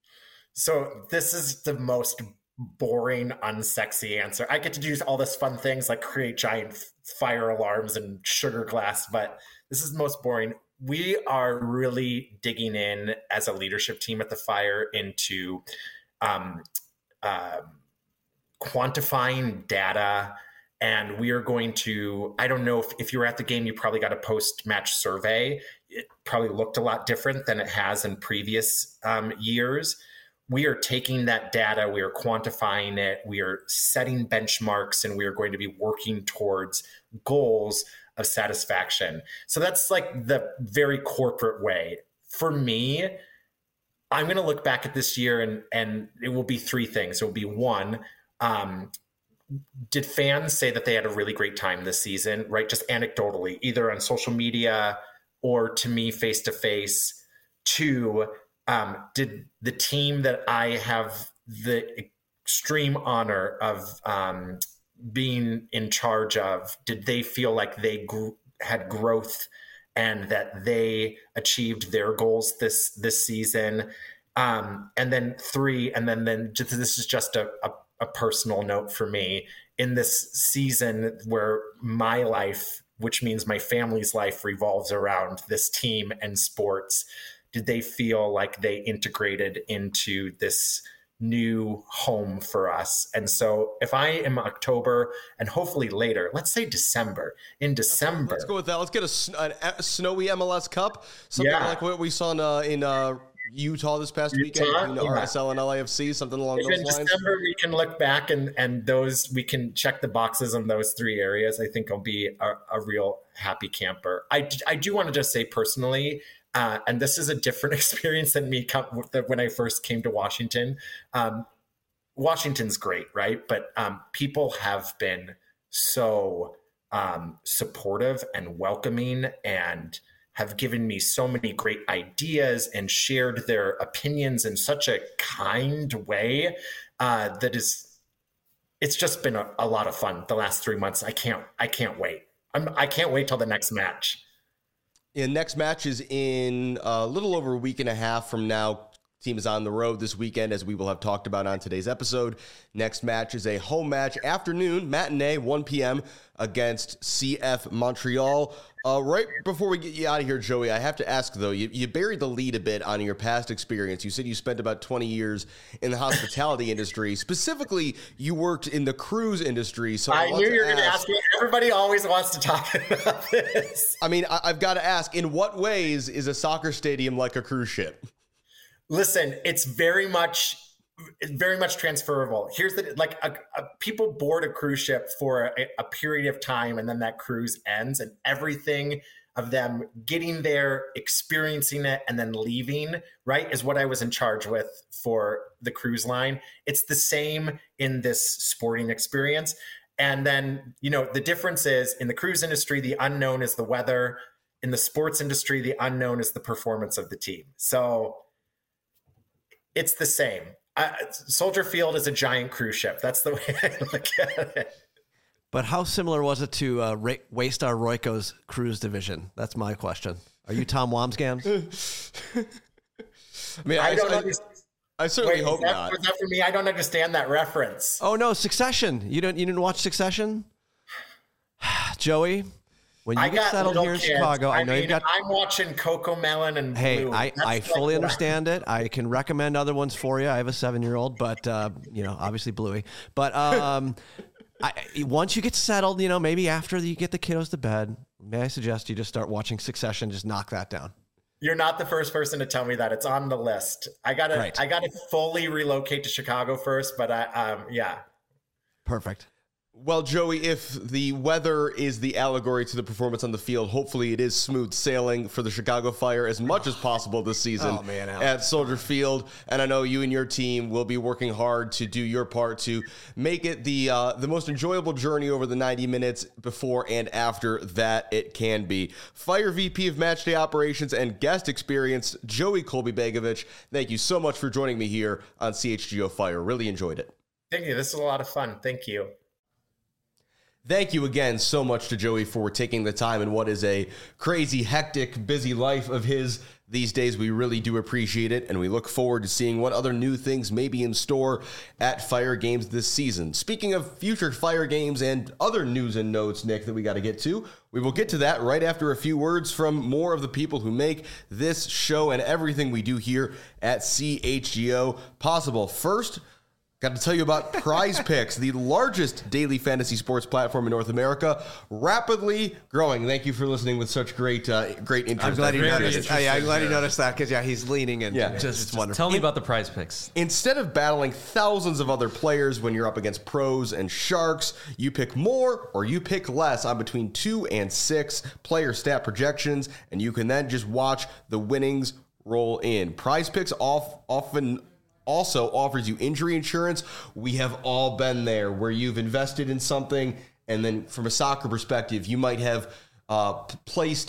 So this is the most boring, unsexy answer. I get to do all this fun things like create giant fire alarms and sugar glass, but this is the most boring. We are really digging in as a leadership team at the Fire into quantifying data. And we are going to, I don't know if you were at the game, you probably got a post-match survey. It probably looked a lot different than it has in previous years. We are taking that data, we are quantifying it, we are setting benchmarks, and we are going to be working towards goals of satisfaction. So that's like the very corporate way. For me, I'm going to look back at this year and it will be three things. It will be one, did fans say that they had a really great time this season, right? Just anecdotally, either on social media or to me face to face. Two, did the team that I have the extreme honor of being in charge of, did they feel like they had growth and that they achieved their goals this season? And then three, and then this is just a personal note for me. In this season where my life, which means my family's life, revolves around this team and sports, did they feel like they integrated into this new home for us? And so if I am October and hopefully later, let's say December, let's go with that. Let's get a snowy MLS Cup, something like what we saw in Utah this past weekend, RSL and LAFC, something along those lines. In December, we can look back and those, we can check the boxes on those three areas. I think I'll be a real happy camper. I do want to just say personally, and this is a different experience than me when I first came to Washington. Washington's great, right? But people have been so supportive and welcoming and have given me so many great ideas and shared their opinions in such a kind way it's just been a lot of fun the last 3 months. I can't wait. I can't wait till the next match. Yeah, next match is in a little over a week and a half from now. Team is on the road this weekend, as we will have talked about on today's episode. Next match is a home match, afternoon, matinee, 1 p.m. against CF Montreal. Right before we get you out of here, Joey, I have to ask, though, you buried the lead a bit on your past experience. You said you spent about 20 years in the hospitality industry. Specifically, you worked in the cruise industry. So I knew you were going to ask me. Everybody always wants to talk about this. I mean, I've got to ask, in what ways is a soccer stadium like a cruise ship? Listen, it's very much transferable. Here's people board a cruise ship for a period of time, and then that cruise ends, and everything of them getting there, experiencing it, and then leaving, right, is what I was in charge with for the cruise line. It's the same in this sporting experience. And then, the difference is in the cruise industry, the unknown is the weather. In the sports industry, the unknown is the performance of the team. So it's the same. Soldier Field is a giant cruise ship. That's the way I look at it. But how similar was it to Waystar Royco's cruise division? That's my question. Are you Tom Wamsgans? I mean, I don't understand. I certainly hope not. Was that for me? I don't understand that reference. Oh no, Succession. You didn't watch Succession? Joey, when you get settled here in Chicago, I know you've got. I'm watching Cocomelon and Blue. Hey, I fully understand it. I can recommend other ones for you. I have a 7-year-old, but obviously Bluey. But once you get settled, maybe after you get the kiddos to bed, may I suggest you just start watching Succession? Just knock that down. You're not the first person to tell me that. It's on the list. I gotta fully relocate to Chicago first, but yeah. Perfect. Well, Joey, if the weather is the allegory to the performance on the field, hopefully it is smooth sailing for the Chicago Fire as much as possible this season at Soldier Field. And I know you and your team will be working hard to do your part to make it the most enjoyable journey over the 90 minutes before and after that it can be. Fire VP of Matchday Operations and Guest Experience, Joey Kolby-Begovic, thank you so much for joining me here on CHGO Fire. Really enjoyed it. Thank you. This is a lot of fun. Thank you. Thank you again so much to Joey for taking the time in what is a crazy, hectic, busy life of his these days. We really do appreciate it, and we look forward to seeing what other new things may be in store at Fire Games this season. Speaking of future Fire Games and other news and notes, Nick, that we got to get to, we will get to that right after a few words from more of the people who make this show and everything we do here at CHGO possible. First, got to tell you about Prize Picks, the largest daily fantasy sports platform in North America, rapidly growing. Thank you for listening with such great interest. I'm glad you noticed. I'm glad you noticed that because he's leaning and just wonderful. Tell me about the Prize Picks. Instead of battling thousands of other players when you're up against pros and sharks, you pick more or you pick less on between 2 and 6 player stat projections, and you can then just watch the winnings roll in. Prize Picks often also offers you injury insurance. We have all been there where you've invested in something, and then from a soccer perspective, you might have placed,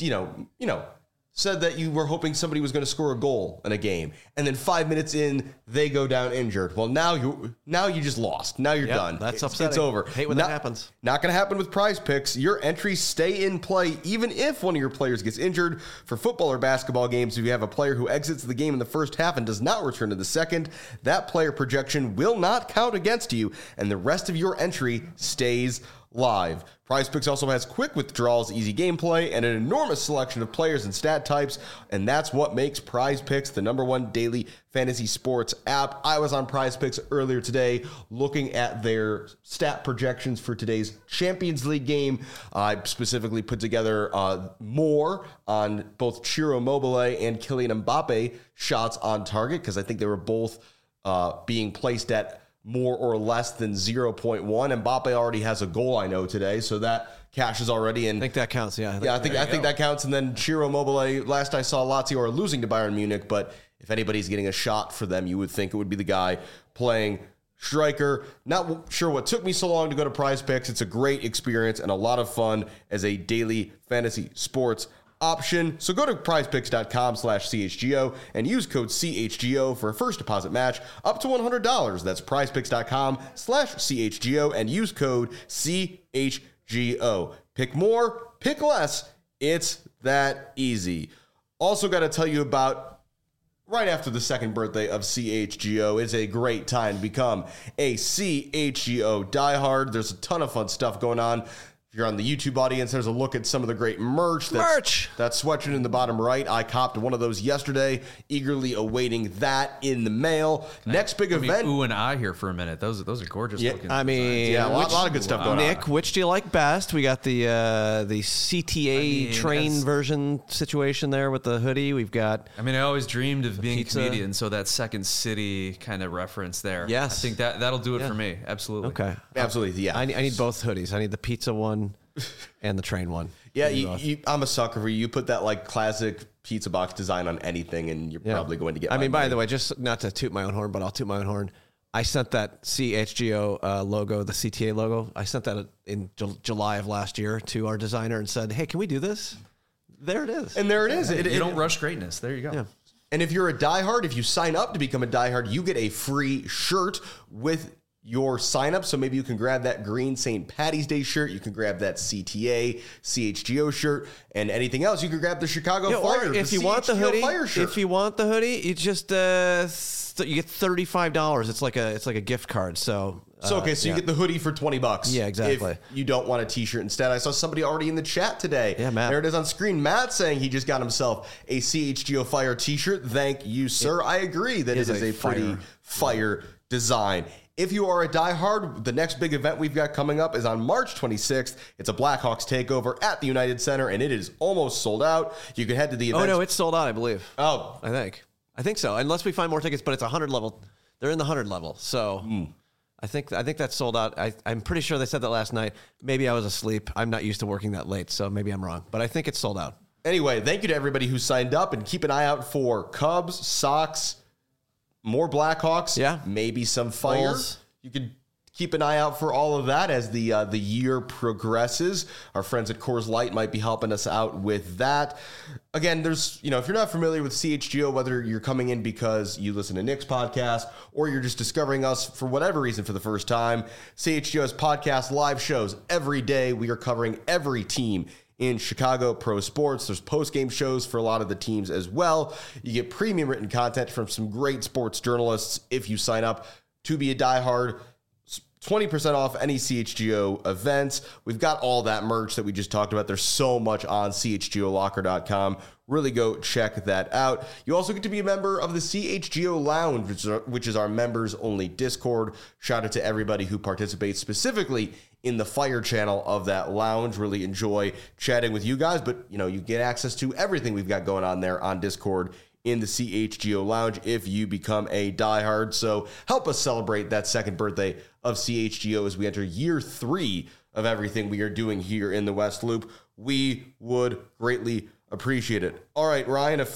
said that you were hoping somebody was going to score a goal in a game, and then 5 minutes in, they go down injured. Well, now you just lost. Now you're done. That's upsetting. It's over. Hate when that happens. Not going to happen with Prize Picks. Your entries stay in play even if one of your players gets injured. For football or basketball games, if you have a player who exits the game in the first half and does not return to the second, that player projection will not count against you, and the rest of your entry stays live. Prize Picks also has quick withdrawals, easy gameplay, and an enormous selection of players and stat types, and that's what makes Prize Picks the #1 daily fantasy sports app. I was on Prize Picks earlier today looking at their stat projections for today's Champions League game. I specifically put together more on both Ciro Immobile and Kylian Mbappe shots on target because I think they were both being placed at more or less than 0.1. Mbappe already has a goal, I know, today, so that cashes already. And I think that counts, yeah. I think that counts. And then Ciro Immobile, last I saw, Lazio are losing to Bayern Munich, but if anybody's getting a shot for them, you would think it would be the guy playing striker. Not sure what took me so long to go to Prize Picks. It's a great experience and a lot of fun as a daily fantasy sports option. So go to prizepicks.com/CHGO and use code CHGO for a first deposit match up to $100. That's prizepicks.com/CHGO and use code CHGO. Pick more, pick less. It's that easy. Also got to tell you about right after the second birthday of CHGO. It's a great time to become a CHGO diehard. There's a ton of fun stuff going on. If you're on the YouTube audience, there's a look at some of the great merch. That sweatshirt in the bottom right. I copped one of those yesterday, eagerly awaiting that in the mail. Next big event. Ooh and I here for a minute. Those are gorgeous looking. I mean, yeah, a lot of good stuff going on. Nick, which do you like best? We got the CTA train version situation there with the hoodie. We've got. I mean, I always dreamed of being pizza. a comedian, so that Second City kind of reference there. Yes. I think that'll do it for me. Absolutely. Okay. Absolutely, yeah. I need both hoodies. I need the pizza one and the train one. Yeah, I'm a sucker for you. You put that like classic pizza box design on anything, and you're probably going to get. I mean, by money. the way, just not to toot my own horn, but I'll toot my own horn. I sent that CHGO logo, the CTA logo. I sent that in July of last year to our designer and said, "Hey, can we do this?" There it is. And there it is. You don't rush greatness. There you go. Yeah. And if you're a diehard, if you sign up to become a diehard, you get a free shirt with your sign up. So maybe you can grab that green St. Patty's Day shirt. You can grab that CTA, CHGO shirt, and anything else. You can grab the Chicago Fire. Or if you want the hoodie, you just you get $35. It's like a gift card. So you get the hoodie for $20. Yeah, exactly. If you don't want a t-shirt instead. I saw somebody already in the chat today. Yeah, Matt. There it is on screen. Matt saying he just got himself a CHGO Fire t-shirt. Thank you, sir. I agree that it is a pretty fire design. If you are a diehard, the next big event we've got coming up is on March 26th. It's a Blackhawks takeover at the United Center, and it is almost sold out. You can head to the event. Oh, no, it's sold out, I believe. Oh. I think so. Unless we find more tickets, but it's 100 level. They're in the 100 level. So I think that's sold out. I'm pretty sure they said that last night. Maybe I was asleep. I'm not used to working that late, so maybe I'm wrong. But I think it's sold out. Anyway, thank you to everybody who signed up, and keep an eye out for Cubs, Sox, more Blackhawks, maybe some Fire. Bulls. You could keep an eye out for all of that as the year progresses. Our friends at Coors Light might be helping us out with that. Again, there's, if you're not familiar with CHGO, whether you're coming in because you listen to Nick's podcast or you're just discovering us for whatever reason for the first time, CHGO has podcast live shows every day. We are covering every team in Chicago pro sports. There's post-game shows for a lot of the teams as well. You get premium written content from some great sports journalists if you sign up to be a diehard. 20% off any CHGO events. We've got all that merch that we just talked about. There's so much on chgolocker.com. Really go check that out. You also get to be a member of the CHGO Lounge, which is our members-only Discord. Shout out to everybody who participates specifically in the Fire channel of that lounge. Really enjoy chatting with you guys, but you get access to everything we've got going on there on Discord in the CHGO Lounge if you become a diehard. So help us celebrate that second birthday of CHGO as we enter year 3 of everything we are doing here in the West Loop. We would greatly appreciate it. All right,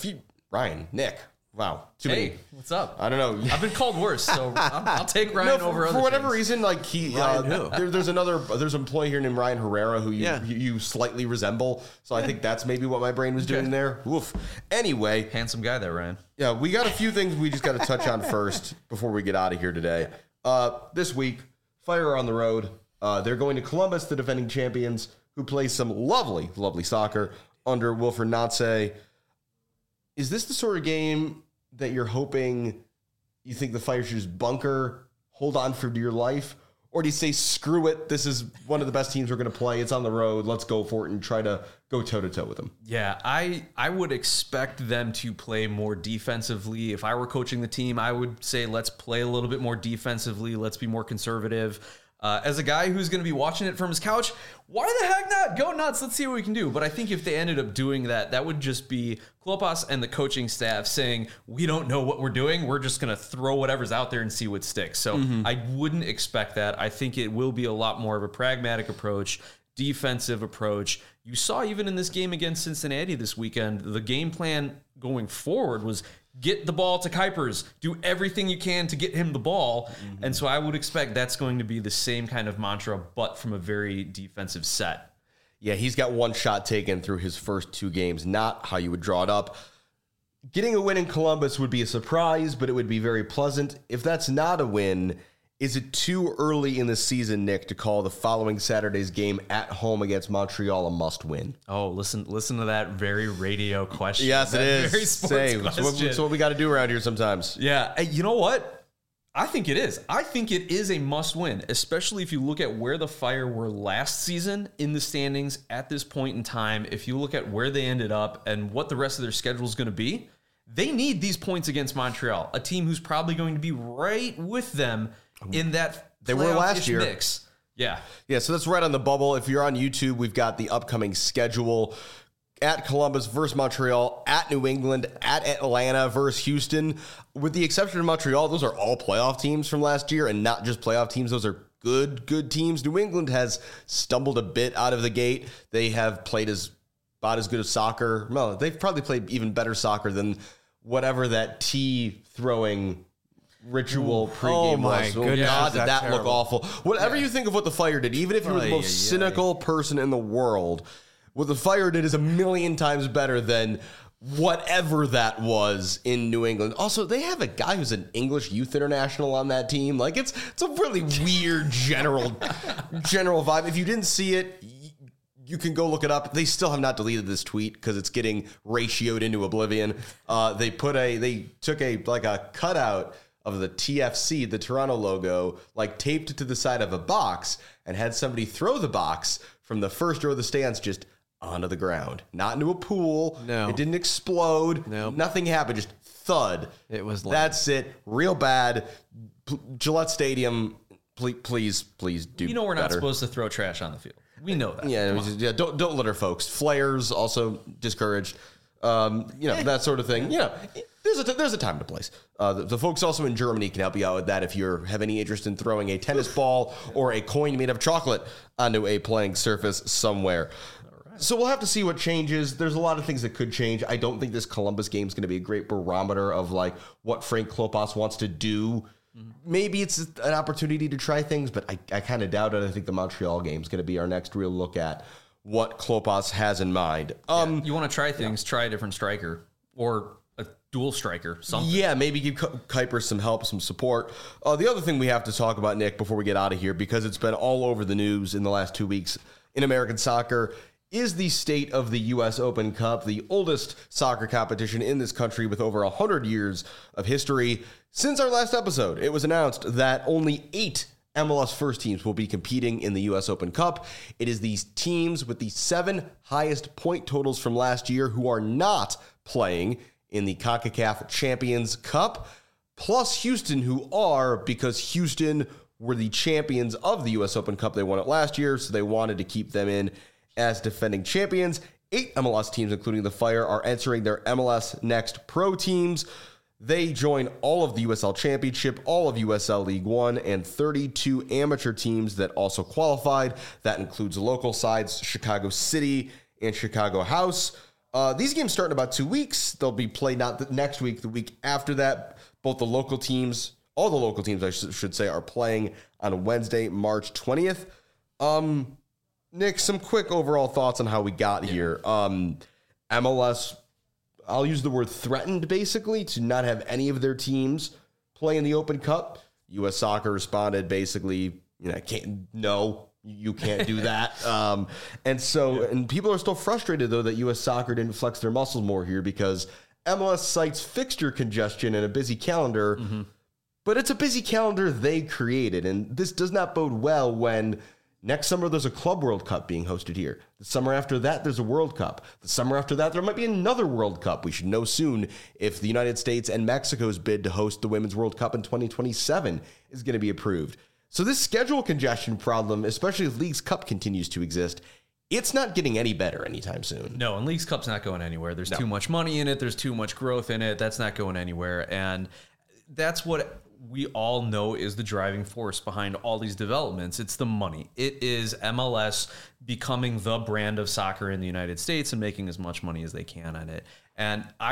Nick. Wow. Too many. What's up? I don't know. I've been called worse, so I'll take Ryan over other for whatever things. reason, like there's an employee here named Ryan Herrera who you slightly resemble. So I think that's maybe what my brain was doing there. Woof. Anyway, handsome guy there, Ryan. Yeah, we got a few things we just got to touch on first before we get out of here today. This week, Fire are on the road. They're going to Columbus, the defending champions, who play some lovely, lovely soccer under Wilfried Nancy. Is this the sort of game that you're hoping you think the Fire should just bunker, hold on for dear life? Or do you say, screw it, this is one of the best teams we're going to play, it's on the road, let's go for it and try to go toe-to-toe with them? Yeah, I would expect them to play more defensively. If I were coaching the team, I would say let's play a little bit more defensively, let's be more conservative. As a guy who's going to be watching it from his couch, why the heck not? Go nuts. Let's see what we can do. But I think if they ended up doing that, that would just be Klopas and the coaching staff saying, we don't know what we're doing. We're just going to throw whatever's out there and see what sticks. So I wouldn't expect that. I think it will be a lot more of a pragmatic approach, defensive approach. You saw even in this game against Cincinnati this weekend, the game plan going forward was get the ball to Kuipers, do everything you can to get him the ball. And so I would expect that's going to be the same kind of mantra, but from a very defensive set. Yeah, he's got one shot taken through his first 2 games, not how you would draw it up. Getting a win in Columbus would be a surprise, but it would be very pleasant. If that's not a win, is it too early in the season, Nick, to call the following Saturday's game at home against Montreal a must-win? Oh, listen to that very radio question. Yes, it is. Very sports Same. question. It's what we got to do around here sometimes. Yeah, and you know what? I think it is. I think it is a must-win, especially if you look at where the Fire were last season in the standings at this point in time. If you look at where they ended up and what the rest of their schedule is going to be, they need these points against Montreal, a team who's probably going to be right with them in that They were last playoff-ish year. mix. Yeah. Yeah, so that's right on the bubble. If you're on YouTube, we've got the upcoming schedule. At Columbus versus Montreal, at New England, at Atlanta versus Houston. With the exception of Montreal, those are all playoff teams from last year, and not just playoff teams. Those are good teams. New England has stumbled a bit out of the gate. They have played about as good as soccer. Well, they've probably played even better soccer than whatever that tea throwing ritual pregame my was. goodness, God, is did that that look terrible. awful. Whatever you think of what the Fire did, even if you were the most cynical person in the world, what the Fire did is a million times better than whatever that was in New England. Also, they have a guy who's an English youth international on that team. Like it's a really weird general vibe. If you didn't see it, you can go look it up. They still have not deleted this tweet because it's getting ratioed into oblivion. They took a cutout of the TFC, the Toronto logo, like taped it to the side of a box and had somebody throw the box from the first row of the stands just onto the ground, not into a pool. No. It didn't explode. Nope. Nothing happened. Just thud. It was lame. That's it. Real bad. Gillette Stadium. Please do. You know we're not better. supposed to throw trash on the field. We know that. Yeah. Don't litter, folks. Flares also discouraged. That sort of thing. There's a time and a place. The folks also in Germany can help you out with that if you have any interest in throwing a tennis ball or a coin made of chocolate onto a playing surface somewhere. So we'll have to see what changes. There's a lot of things that could change. I don't think this Columbus game is going to be a great barometer of like what Frank Klopas wants to do. Maybe it's an opportunity to try things, but I kind of doubt it. I think the Montreal game is going to be our next real look at what Klopas has in mind. You want to try things, try a different striker or a dual striker, something. Yeah, maybe give Kuiper some help, some support. The other thing we have to talk about, Nick, before we get out of here, because it's been all over the news in the last 2 weeks in American soccer, is the state of the U.S. Open Cup, the oldest soccer competition in this country with over 100 years of history. Since our last episode, it was announced that only 8 MLS first teams will be competing in the U.S. Open Cup. It is these teams with the 7 highest point totals from last year who are not playing in the CONCACAF Champions Cup, plus Houston, who are, because Houston were the champions of the U.S. Open Cup. They won it last year, so they wanted to keep them in as defending champions. 8 MLS teams, including the Fire, are entering their MLS Next Pro teams. They join all of the USL Championship, all of USL League One, and 32 amateur teams that also qualified. That includes local sides, Chicago City and Chicago House. These games start in about 2 weeks. They'll be played not next week, the week after that. Both the local teams, all the local teams, I should say, are playing on Wednesday, March 20th. Nick, some quick overall thoughts on how we got here. MLS, I'll use the word threatened, basically, to not have any of their teams play in the Open Cup. U.S. Soccer responded, basically, you can't do that. And people are still frustrated, though, that U.S. Soccer didn't flex their muscles more here because MLS cites fixture congestion and a busy calendar, but it's a busy calendar they created, and this does not bode well when next summer, there's a Club World Cup being hosted here. The summer after that, there's a World Cup. The summer after that, there might be another World Cup. We should know soon if the United States and Mexico's bid to host the Women's World Cup in 2027 is going to be approved. So this schedule congestion problem, especially if Leagues Cup continues to exist, it's not getting any better anytime soon. No, and Leagues Cup's not going anywhere. There's too much money in it. There's too much growth in it. That's not going anywhere. And that's what we all know is the driving force behind all these developments. It's the money. It is MLS becoming the brand of soccer in the United States and making as much money as they can on it. And I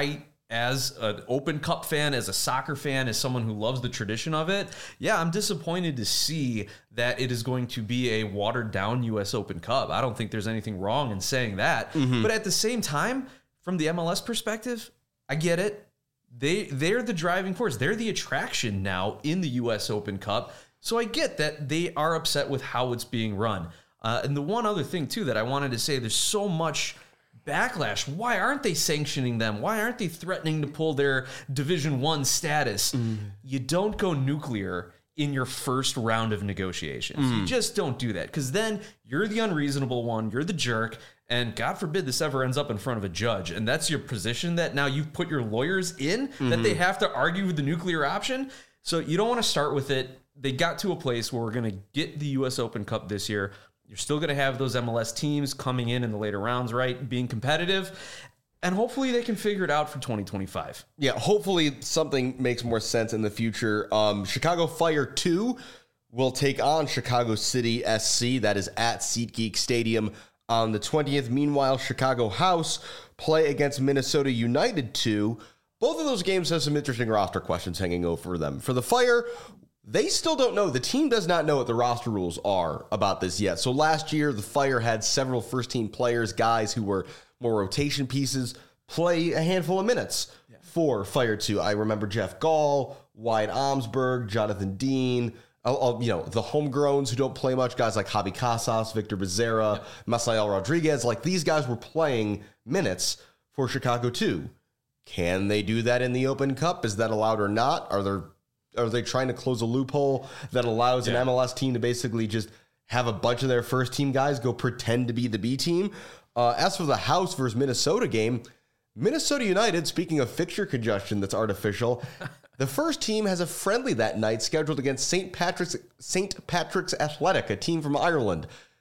as an Open Cup fan, as a soccer fan, as someone who loves the tradition of it, yeah, I'm disappointed to see that it is going to be a watered down U.S. Open Cup. I don't think there's anything wrong in saying that. But at the same time, from the MLS perspective, I get it. They're the driving force. They're the attraction now in the U.S. Open Cup. So I get that they are upset with how it's being run. And the one other thing, too, that I wanted to say, there's so much backlash. Why aren't they sanctioning them? Why aren't they threatening to pull their Division I status? You don't go nuclear in your first round of negotiations. You just don't do that, because then you're the unreasonable one, you're the jerk, and God forbid this ever ends up in front of a judge. And that's your position that now you've put your lawyers in, that they have to argue with the nuclear option. So you don't want to start with it. They got to a place where we're going to get the U.S. Open Cup this year. You're still going to have those MLS teams coming in the later rounds, right? Being competitive. And hopefully they can figure it out for 2025. Yeah, hopefully something makes more sense in the future. Chicago Fire 2 will take on Chicago City SC. That is at SeatGeek Stadium on the 20th. Meanwhile, Chicago House play against Minnesota United 2. Both of those games have some interesting roster questions hanging over them. For the Fire, they still don't know. The team does not know what the roster rules are about this yet. So last year, the Fire had several first-team players, guys who were more rotation pieces, play a handful of minutes for Fire 2. I remember Jeff Gall, Wyatt Omsberg, Jonathan Dean, the homegrowns who don't play much, guys like Javi Casas, Victor Becerra, Masael Rodriguez. Like, these guys were playing minutes for Chicago 2. Can they do that in the Open Cup? Is that allowed or not? Are they trying to close a loophole that allows an MLS team to basically just have a bunch of their first team guys go pretend to be the B team? As for the House versus Minnesota game, Minnesota United, speaking of fixture congestion that's artificial, the first team has a friendly that night scheduled against St. Patrick's Athletic, a team from Ireland.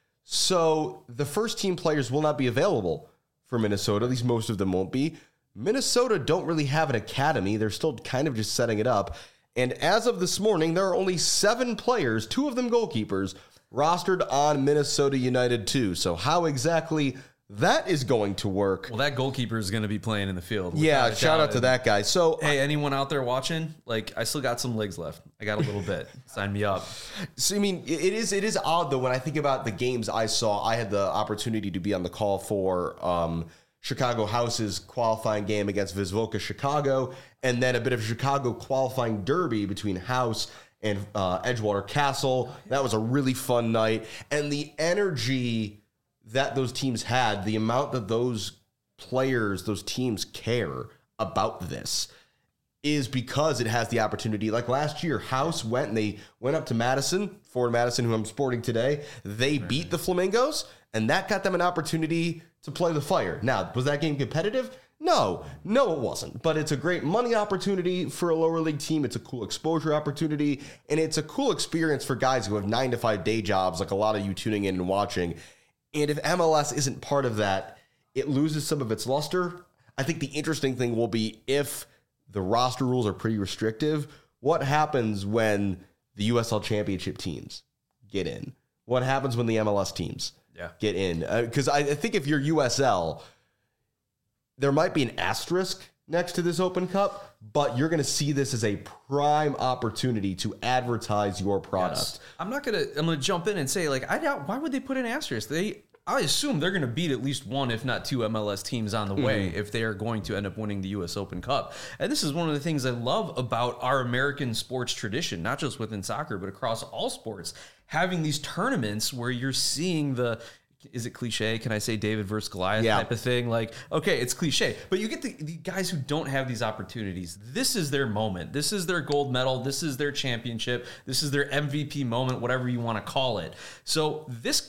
So the first team players will not be available for Minnesota. At least most of them won't be. Minnesota don't really have an academy. They're still kind of just setting it up. And as of this morning, there are only 7 players, 2 of them goalkeepers, rostered on Minnesota United 2. So how exactly that is going to work? Well, that goalkeeper is going to be playing in the field. Yeah, shout out to that guy. So, hey, anyone out there watching? Like, I still got some legs left. I got a little bit. Sign me up. So, I mean, it is odd, though, when I think about the games I saw. I had the opportunity to be on the call for Chicago House's qualifying game against Wisłocka Chicago, and then a bit of Chicago qualifying derby between House and Edgewater Castle. That was a really fun night. And the energy that those teams had, the amount that those players, those teams care about this, is because it has the opportunity. Like last year, House went up to Madison, Ford Madison, who I'm sporting today. They beat the Flamingos, and that got them an opportunity to play the Fire. Now, was that game competitive? No, it wasn't. But it's a great money opportunity for a lower league team. It's a cool exposure opportunity, and it's a cool experience for guys who have 9-to-5 day jobs, like a lot of you tuning in and watching. And if MLS isn't part of that, it loses some of its luster. I think the interesting thing will be if the roster rules are pretty restrictive, what happens when the USL Championship teams get in? What happens when the MLS teams get in? Because I think if you're USL, there might be an asterisk next to this Open Cup, but you're going to see this as a prime opportunity to advertise your product. Yes. I'm going to jump in and say, like, I doubt, why would they put an asterisk? I assume they're going to beat at least 1, if not 2 MLS teams on the way if they are going to end up winning the U.S. Open Cup. And this is one of the things I love about our American sports tradition, not just within soccer, but across all sports, having these tournaments where you're seeing is it cliche? Can I say David versus Goliath type of thing? Like, okay, it's cliche, but you get the guys who don't have these opportunities. This is their moment. This is their gold medal. This is their championship. This is their MVP moment, whatever you want to call it. So this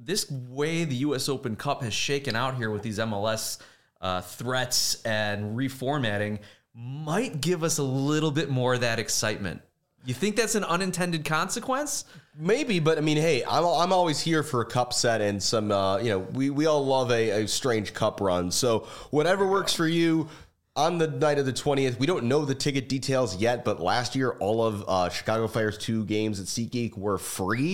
way the U.S. Open Cup has shaken out here with these MLS threats and reformatting might give us a little bit more of that excitement. You think that's an unintended consequence? Maybe, but I mean, hey, I'm always here for a cup set and some, we all love a strange cup run. So whatever works for you. On the night of the 20th, we don't know the ticket details yet, but last year, all of Chicago Fire's 2 games at SeatGeek were free.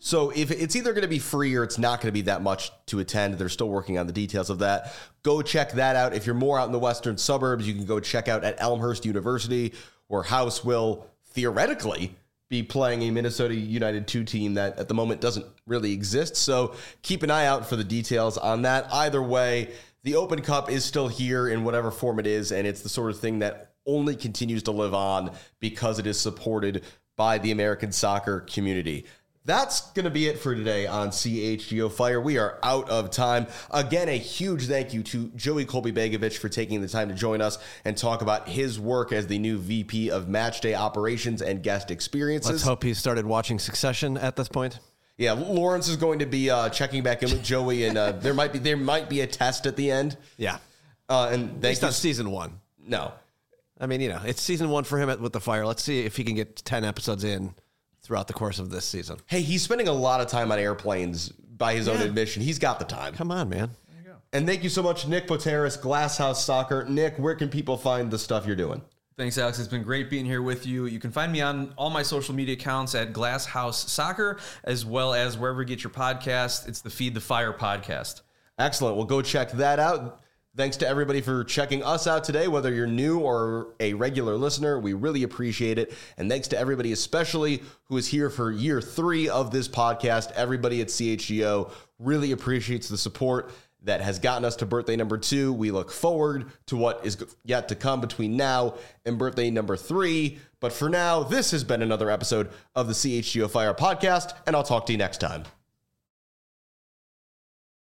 So if it's either going to be free or it's not going to be that much to attend, they're still working on the details of that. Go check that out. If you're more out in the western suburbs, you can go check out at Elmhurst University, where House will theoretically be playing a Minnesota United 2 team that at the moment doesn't really exist. So keep an eye out for the details on that. Either way, the Open Cup is still here in whatever form it is, and it's the sort of thing that only continues to live on because it is supported by the American soccer community. That's going to be it for today on CHGO Fire. We are out of time. Again, a huge thank you to Joey Kolby-Begovic for taking the time to join us and talk about his work as the new VP of Matchday Operations and Guest Experiences. Let's hope he started watching Succession at this point. Yeah, Lawrence is going to be checking back in with Joey, and there might be a test at the end. Yeah. And Based on season 1. No. I mean, it's season 1 for him with the Fire. Let's see if he can get 10 episodes in throughout the course of this season. Hey, he's spending a lot of time on airplanes by his own admission. He's got the time. Come on, man. There you go. And thank you so much, Nick Poteris, Glasshouse Soccer. Nick, where can people find the stuff you're doing? Thanks, Alex. It's been great being here with you. You can find me on all my social media accounts at Glasshouse Soccer, as well as wherever you get your podcast. It's the Feed the Fire podcast. Excellent. Well, go check that out. Thanks to everybody for checking us out today, whether you're new or a regular listener. We really appreciate it. And thanks to everybody, especially who is here for year 3 of this podcast. Everybody at CHGO really appreciates the support that has gotten us to birthday number 2. We look forward to what is yet to come between now and birthday number 3. But for now, this has been another episode of the CHGO Fire podcast, and I'll talk to you next time.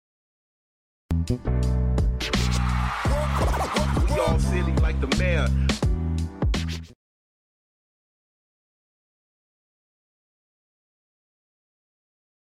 All silly like the mayor.